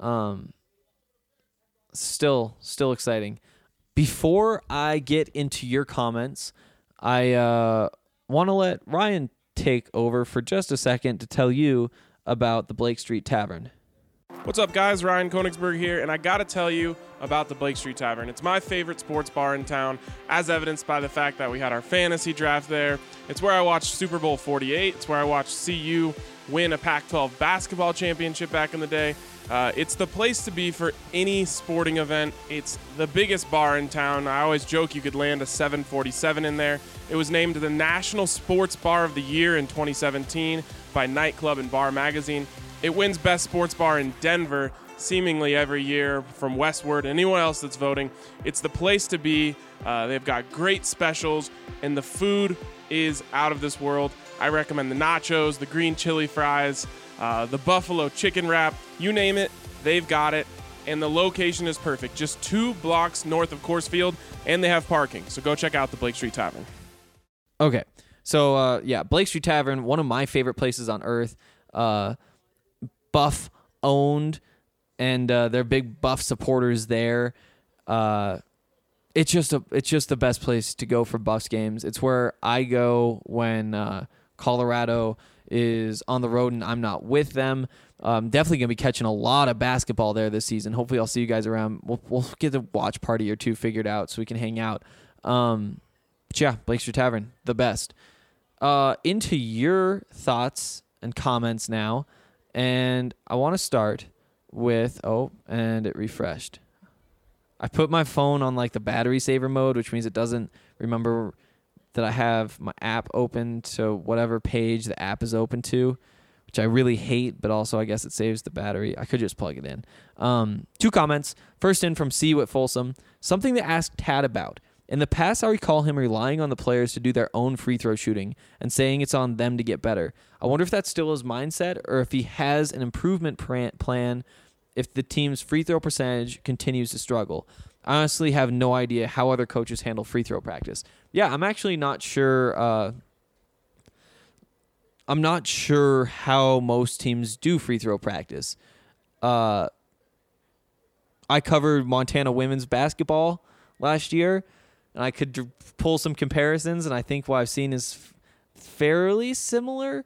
still exciting. Before I get into your comments, I want to let Ryan take over for just a second to tell you about the Blake Street Tavern. What's up, guys? Ryan Konigsberg here, and I got to tell you about the Blake Street Tavern. It's my favorite sports bar in town, as evidenced by the fact that we had our fantasy draft there. It's where I watched Super Bowl 48. It's where I watched CU win a Pac-12 basketball championship back in the day. It's the place to be for any sporting event. It's the biggest bar in town. I always joke you could land a 747 in there. It was named the National Sports Bar of the Year in 2017 by Nightclub and Bar Magazine. It wins Best Sports Bar in Denver seemingly every year from Westward. Anyone else that's voting, it's the place to be. They've got great specials, and the food is out of this world. I recommend the nachos, the green chili fries, the buffalo chicken wrap, you name it, they've got it. And the location is perfect, just 2 blocks north of Coors Field, and they have parking. So go check out the Blake Street Tavern. Okay, so Blake Street Tavern, one of my favorite places on earth. Buff owned, and they're big Buff supporters there. It's just the best place to go for Buffs games. It's where I go when Colorado is on the road and I'm not with them. Definitely gonna be catching a lot of basketball there this season. Hopefully, I'll see you guys around. We'll get a watch party or two figured out so we can hang out. Blake Street Tavern, the best. Into your thoughts and comments now. And I want to start with, and it refreshed. I put my phone on like the battery saver mode, which means it doesn't remember that I have my app open to whatever page the app is open to, which I really hate, but also I guess it saves the battery. I could just plug it in. 2 comments. First in from See You at Folsom. Something to ask Tad about. In the past, I recall him relying on the players to do their own free throw shooting and saying it's on them to get better. I wonder if that's still his mindset or if he has an improvement plan if the team's free throw percentage continues to struggle. I honestly have no idea how other coaches handle free throw practice. Yeah, I'm actually not sure. I'm not sure how most teams do free throw practice. I covered Montana women's basketball last year, and I could pull some comparisons, and I think what I've seen is fairly similar.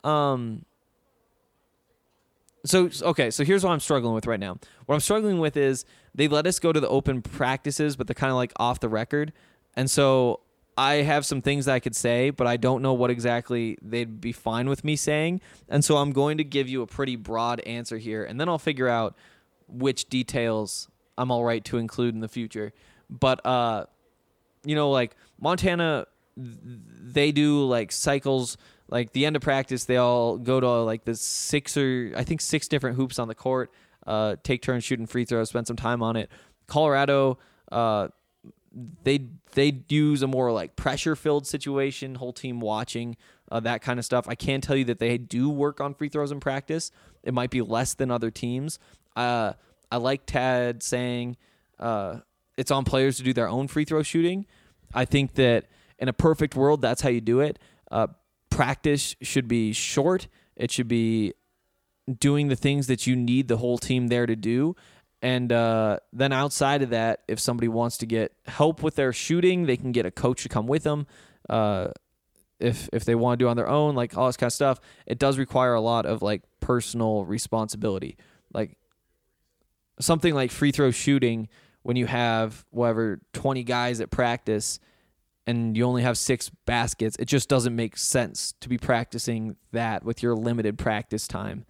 So here's what I'm struggling with right now. What I'm struggling with is they let us go to the open practices, but they're kind of like off the record. And so I have some things that I could say, but I don't know what exactly they'd be fine with me saying. And so I'm going to give you a pretty broad answer here, and then I'll figure out which details I'm all right to include in the future. But, like Montana, they do like cycles. Like the end of practice, they all go to like the 6 different hoops on the court, take turns shooting free throws, spend some time on it. Colorado, they use a more like pressure filled situation, whole team watching, that kind of stuff. I can tell you that they do work on free throws in practice. It might be less than other teams. I like Tad saying it's on players to do their own free throw shooting. I think that in a perfect world, that's how you do it. Practice should be short. It should be doing the things that you need the whole team there to do. And then outside of that, if somebody wants to get help with their shooting, they can get a coach to come with them. If they want to do it on their own, like all this kind of stuff, it does require a lot of like personal responsibility. Like something like free throw shooting, when you have 20 guys at practice and you only have 6 baskets, it just doesn't make sense to be practicing that with your limited practice time.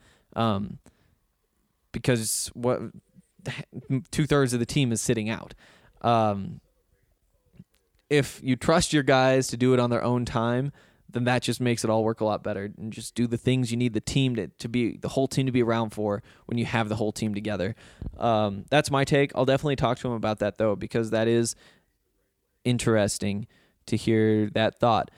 Because 2/3 of the team is sitting out. If you trust your guys to do it on their own time, then that just makes it all work a lot better. And just do the things you need the team the whole team to be around for when you have the whole team together. That's my take. I'll definitely talk to him about that though, because that is interesting to hear that thought.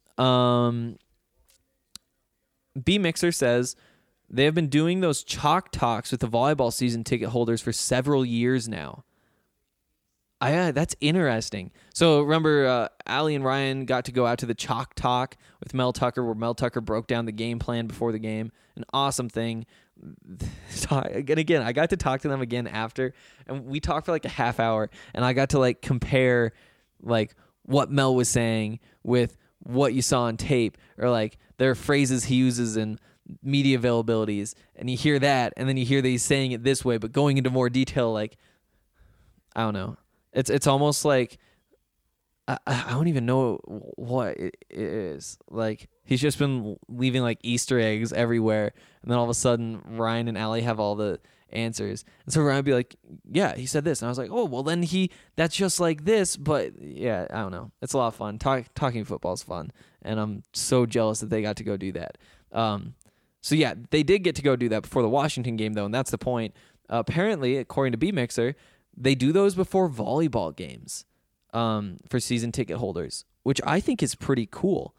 B Mixer says they have been doing those chalk talks with the volleyball season ticket holders for several years now. That's interesting. So remember, Allie and Ryan got to go out to the chalk talk with Mel Tucker, where Mel Tucker broke down the game plan before the game. An awesome thing. And again, I got to talk to them again after, and we talked for like a half hour, and I got to like compare like what Mel was saying with what you saw on tape, or like there are phrases he uses in media availabilities, and you hear that, and then you hear that he's saying it this way, but going into more detail, like, I don't know. It's almost like I don't even know what it is. Like, he's just been leaving like Easter eggs everywhere, and then all of a sudden Ryan and Allie have all the answers, and so Ryan would be like, "Yeah, he said this," and I was like, "Oh, well then that's just like this." But yeah, I don't know. It's a lot of fun. Talking football is fun, and I'm so jealous that they got to go do that. So yeah, they did get to go do that before the Washington game though, and that's the point. Apparently, according to B Mixer, they do those before volleyball games for season ticket holders, which I think is pretty cool.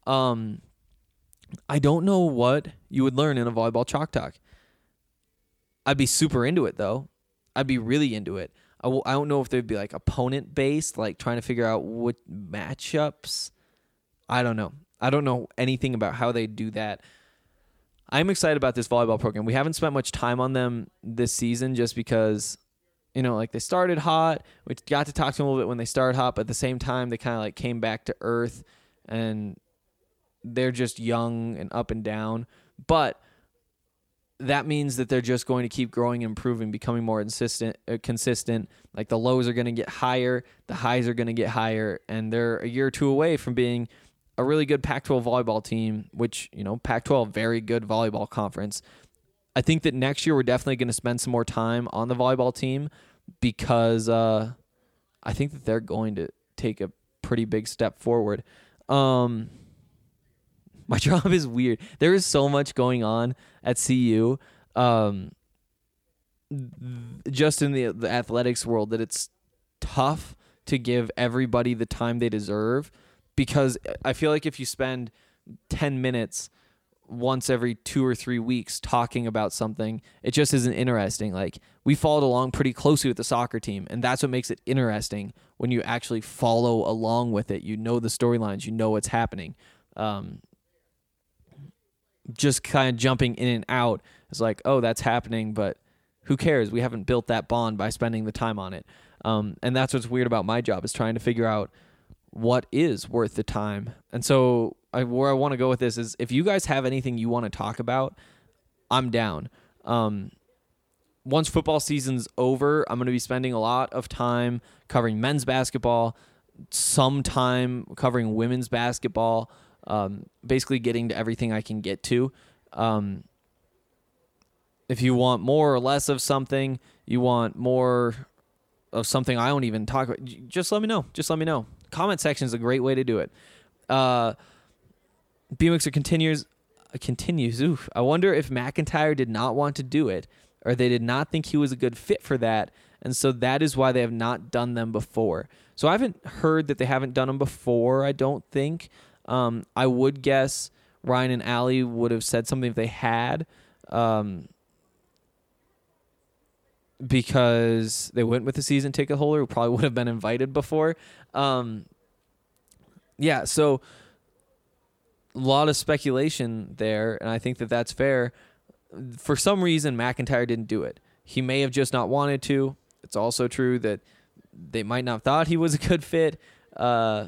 I don't know what you would learn in a volleyball chalk talk. I'd be super into it, though. I'd be really into it. I don't know if they'd be like opponent-based, like trying to figure out what matchups. I don't know. I don't know anything about how they do that. I'm excited about this volleyball program. We haven't spent much time on them this season just because, like they started hot. We got to talk to them a little bit when they started hot, but at the same time, they kind of like came back to earth, and they're just young and up and down. But that means that they're just going to keep growing and improving, becoming more consistent. Like the lows are going to get higher, the highs are going to get higher, and they're a year or two away from being a really good Pac-12 volleyball team, which, Pac-12, very good volleyball conference. I think that next year we're definitely going to spend some more time on the volleyball team because I think that they're going to take a pretty big step forward. My job is weird. There is so much going on at CU, just in the athletics world, that it's tough to give everybody the time they deserve, because I feel like if you spend 10 minutes once every 2 or 3 weeks talking about something, it just isn't interesting. Like, we followed along pretty closely with the soccer team, and that's what makes it interesting when you actually follow along with it. You know the storylines, you know what's happening. Just kind of jumping in and out is like, oh, that's happening, but who cares? We haven't built that bond by spending the time on it. And that's what's weird about my job, is trying to figure out what is worth the time. And so where I want to go with this is, if you guys have anything you want to talk about, I'm down. Once football season's over, I'm going to be spending a lot of time covering men's basketball, some time covering women's basketball, basically getting to everything I can get to. If you want more or less of something, you want more of something I don't even talk about, just let me know. Comment section is a great way to do it. B-Mixer continues. I wonder if McIntyre did not want to do it, or they did not think he was a good fit for that, And so that is why they have not done them before. So I haven't heard that they haven't done them before, I don't think. I would guess Ryan and Allie would have said something if they had, because they went with the season ticket holder who probably would have been invited before. Yeah, so a lot of speculation there, and I think that that's fair. For some reason, McIntyre didn't do it. He may have just not wanted to. It's also true that they might not have thought he was a good fit. I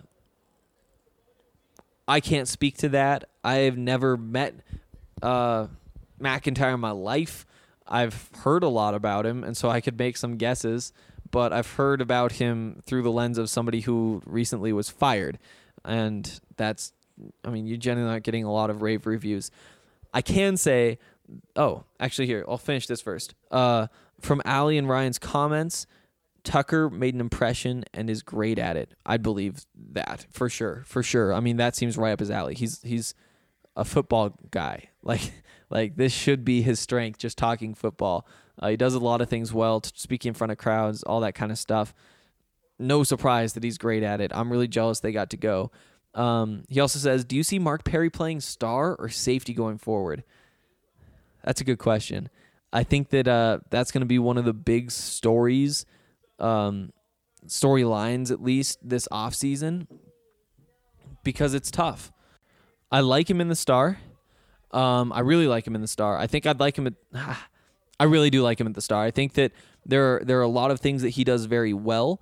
can't speak to that. I have never met McIntyre in my life. I've heard a lot about him, and so I could make some guesses, but I've heard about him through the lens of somebody who recently was fired. And that's, I mean, you're generally not getting a lot of rave reviews. I can say, actually here, I'll finish this first. From Allie and Ryan's comments, Tucker made an impression and is great at it. I'd believe that for sure. I mean, that seems right up his alley. He's a football guy. Like this should be his strength, just talking football. He does a lot of things well, speaking in front of crowds, all that kind of stuff. No surprise that he's great at it. I'm really jealous they got to go. He also says, do you see Mark Perry playing star or safety going forward? That's a good question. I think that that's going to be one of the big storylines at least this offseason, because it's tough. I like him in the star. I really like him in the star. I think I'd like him I really do like him at the star. I think that there are a lot of things that he does very well.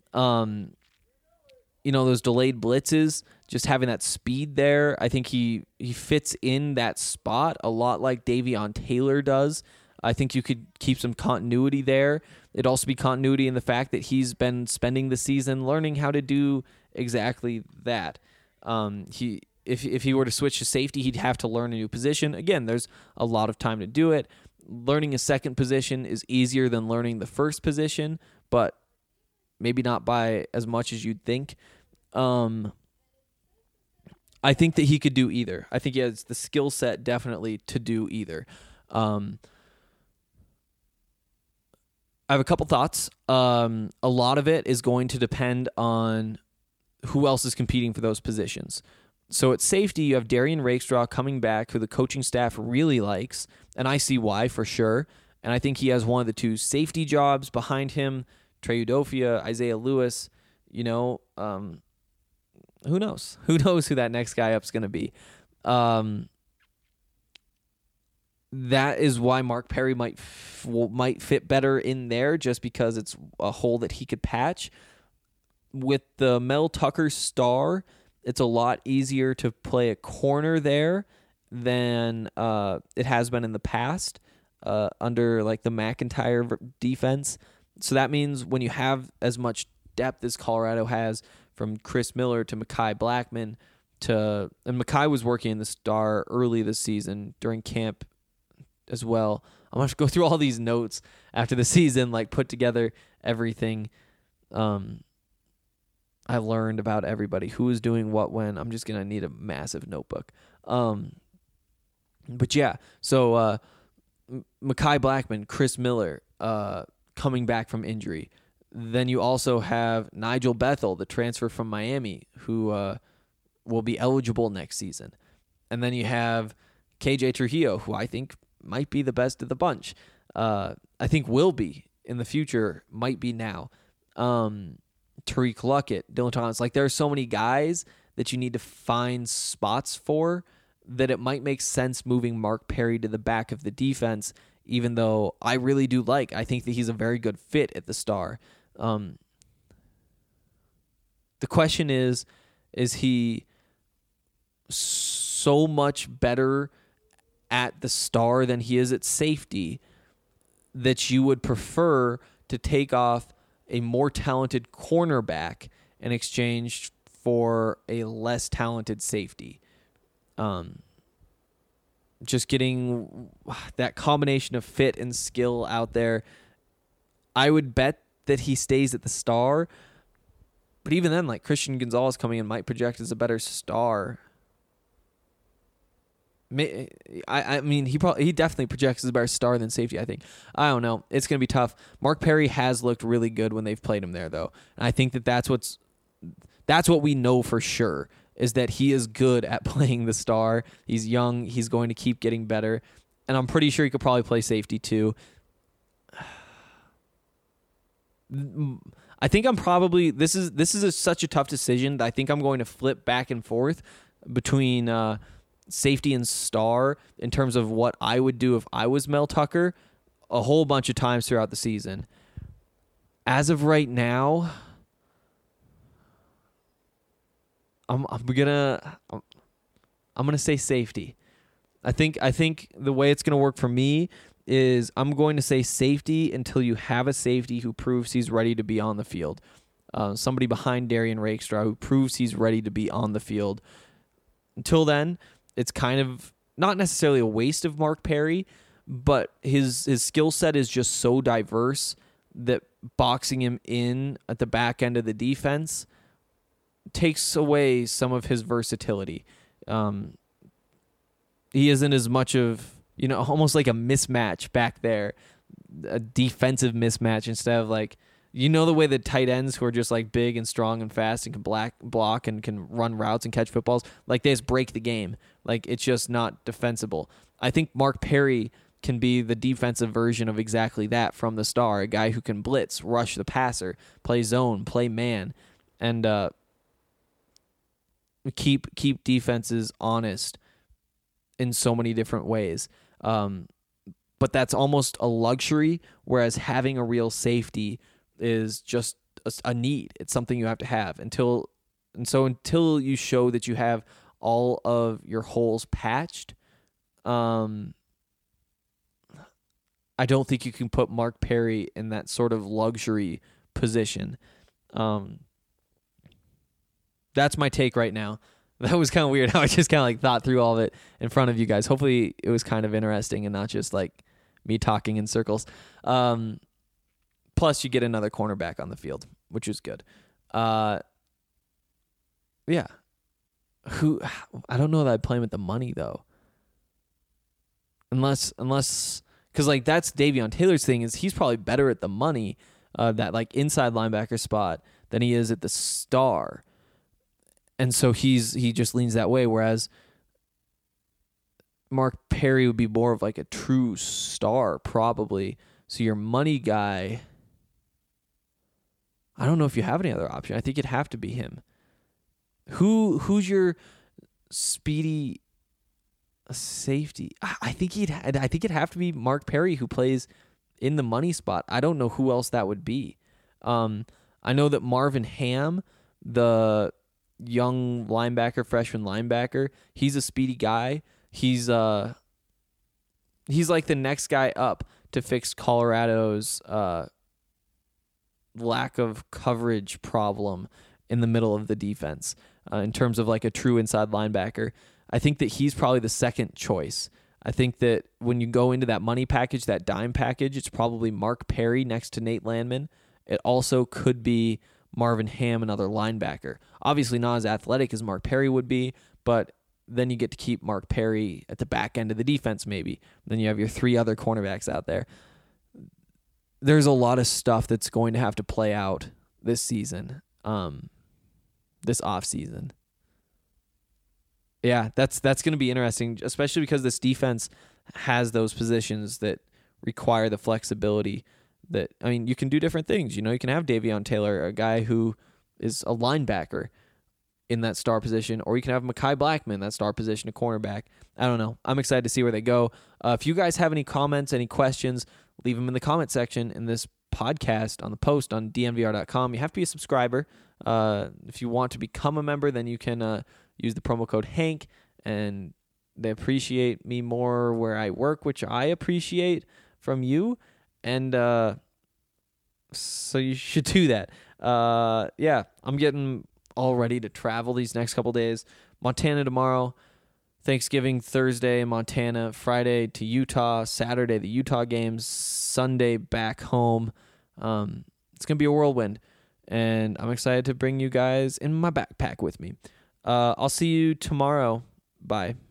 Those delayed blitzes, just having that speed there. I think he fits in that spot a lot like Davion Taylor does. I think you could keep some continuity there. It'd also be continuity in the fact that he's been spending the season learning how to do exactly that. If he were to switch to safety, he'd have to learn a new position. Again, there's a lot of time to do it. Learning a second position is easier than learning the first position, but maybe not by as much as you'd think. I think that he could do either. I think he has the skill set definitely to do either. I have a couple thoughts. A lot of it is going to depend on who else is competing for those positions. So at safety, you have Darian Rakestraw coming back, who the coaching staff really likes, and I see why for sure. And I think he has one of the two safety jobs behind him. Trey Udofia, Isaiah Lewis, who knows? Who knows who that next guy up is going to be? That is why Mark Perry might fit better in there, just because it's a hole that he could patch. With the Mel Tucker star, it's a lot easier to play a corner there than it has been in the past under like the McIntyre defense. So that means when you have as much depth as Colorado has, from Chris Miller to Mekhi Blackman and Mekhi was working in the star early this season during camp as well. I'm going to go through all these notes after the season, like put together everything I learned about everybody, who was doing what when. I'm just going to need a massive notebook. But yeah, so Mekhi Blackman, Chris Miller coming back from injury. Then you also have Nigel Bethel, the transfer from Miami, who will be eligible next season. And then you have KJ Trujillo, who I think might be the best of the bunch. I think will be in the future, might be now. Tariq Luckett, Dylan Thomas. Like, there are so many guys that you need to find spots for that it might make sense moving Mark Perry to the back of the defense, even though I really do I think that he's a very good fit at the star. The question is he so much better at the star than he is at safety that you would prefer to take off a more talented cornerback in exchange for a less talented safety? Just getting that combination of fit and skill out there. I would bet that he stays at the star, but even then, like, Christian Gonzalez coming in might project as a better star. I mean, he definitely projects as a better star than safety, I think. I don't know. It's going to be tough. Mark Perry has looked really good when they've played him there, though. And I think that's what we know for sure, is that he is good at playing the star. He's young. He's going to keep getting better. And I'm pretty sure he could probably play safety, too. I think I'm probably... This is such a tough decision that I think I'm going to flip back and forth between... safety and star in terms of what I would do if I was Mel Tucker a whole bunch of times throughout the season. As of right now, I'm gonna say safety. I think the way it's gonna work for me is I'm going to say safety until you have a safety who proves he's ready to be on the field. Somebody behind Darian Rakestraw who proves he's ready to be on the field. Until then, it's kind of not necessarily a waste of Mark Perry, but his skill set is just so diverse that boxing him in at the back end of the defense takes away some of his versatility. He isn't as much of, almost like a mismatch back there, a defensive mismatch instead of like, the way the tight ends who are just like big and strong and fast and can block and can run routes and catch footballs, like they just break the game. Like it's just not defensible. I think Mark Perry can be the defensive version of exactly that from the star, a guy who can blitz, rush the passer, play zone, play man, and keep defenses honest in so many different ways. But that's almost a luxury, whereas having a real safety is just a need. It's something you have to have until you show that you have all of your holes patched. I don't think you can put Mark Perry in that sort of luxury position. That's my take right now. That was kind of weird how I just kind of like thought through all of it in front of you guys. Hopefully it was kind of interesting and not just like me talking in circles. Plus, you get another cornerback on the field, which is good. Yeah. I don't know that I'd play him at the money, though. Unless, because like that's Davion Taylor's thing, is he's probably better at the money, that like inside linebacker spot, than he is at the star. And so he just leans that way, whereas Mark Perry would be more of like a true star, probably. So your money guy, I don't know if you have any other option. I think it'd have to be him. Who's your speedy safety? I think it'd have to be Mark Perry, who plays in the money spot. I don't know who else that would be. I know that Marvin Ham, the young freshman linebacker, he's a speedy guy. He's like the next guy up to fix Colorado's lack of coverage problem in the middle of the defense in terms of like a true inside linebacker. I think that he's probably the second choice. I think that when you go into that money package, that dime package, it's probably Mark Perry next to Nate Landman. It also could be Marvin Ham, another linebacker. Obviously not as athletic as Mark Perry would be, but then you get to keep Mark Perry at the back end of the defense maybe. Then you have your three other cornerbacks out there. There's a lot of stuff that's going to have to play out this season, this offseason. Yeah, that's going to be interesting, especially because this defense has those positions that require the flexibility that, I mean, you can do different things. You can have Davion Taylor, a guy who is a linebacker in that star position, or you can have Mekhi Blackman, that star position, a cornerback. I don't know. I'm excited to see where they go. If you guys have any comments, any questions, leave them in the comment section in this podcast on the post on dnvr.com. You have to be a subscriber. If you want to become a member, then you can use the promo code Hank, and they appreciate me more where I work, which I appreciate from you. And so you should do that. Yeah, I'm getting all ready to travel these next couple days. Montana tomorrow, Thanksgiving Thursday in Montana, Friday to Utah, Saturday the Utah games, Sunday back home. It's going to be a whirlwind, and I'm excited to bring you guys in my backpack with me. I'll see you tomorrow. Bye.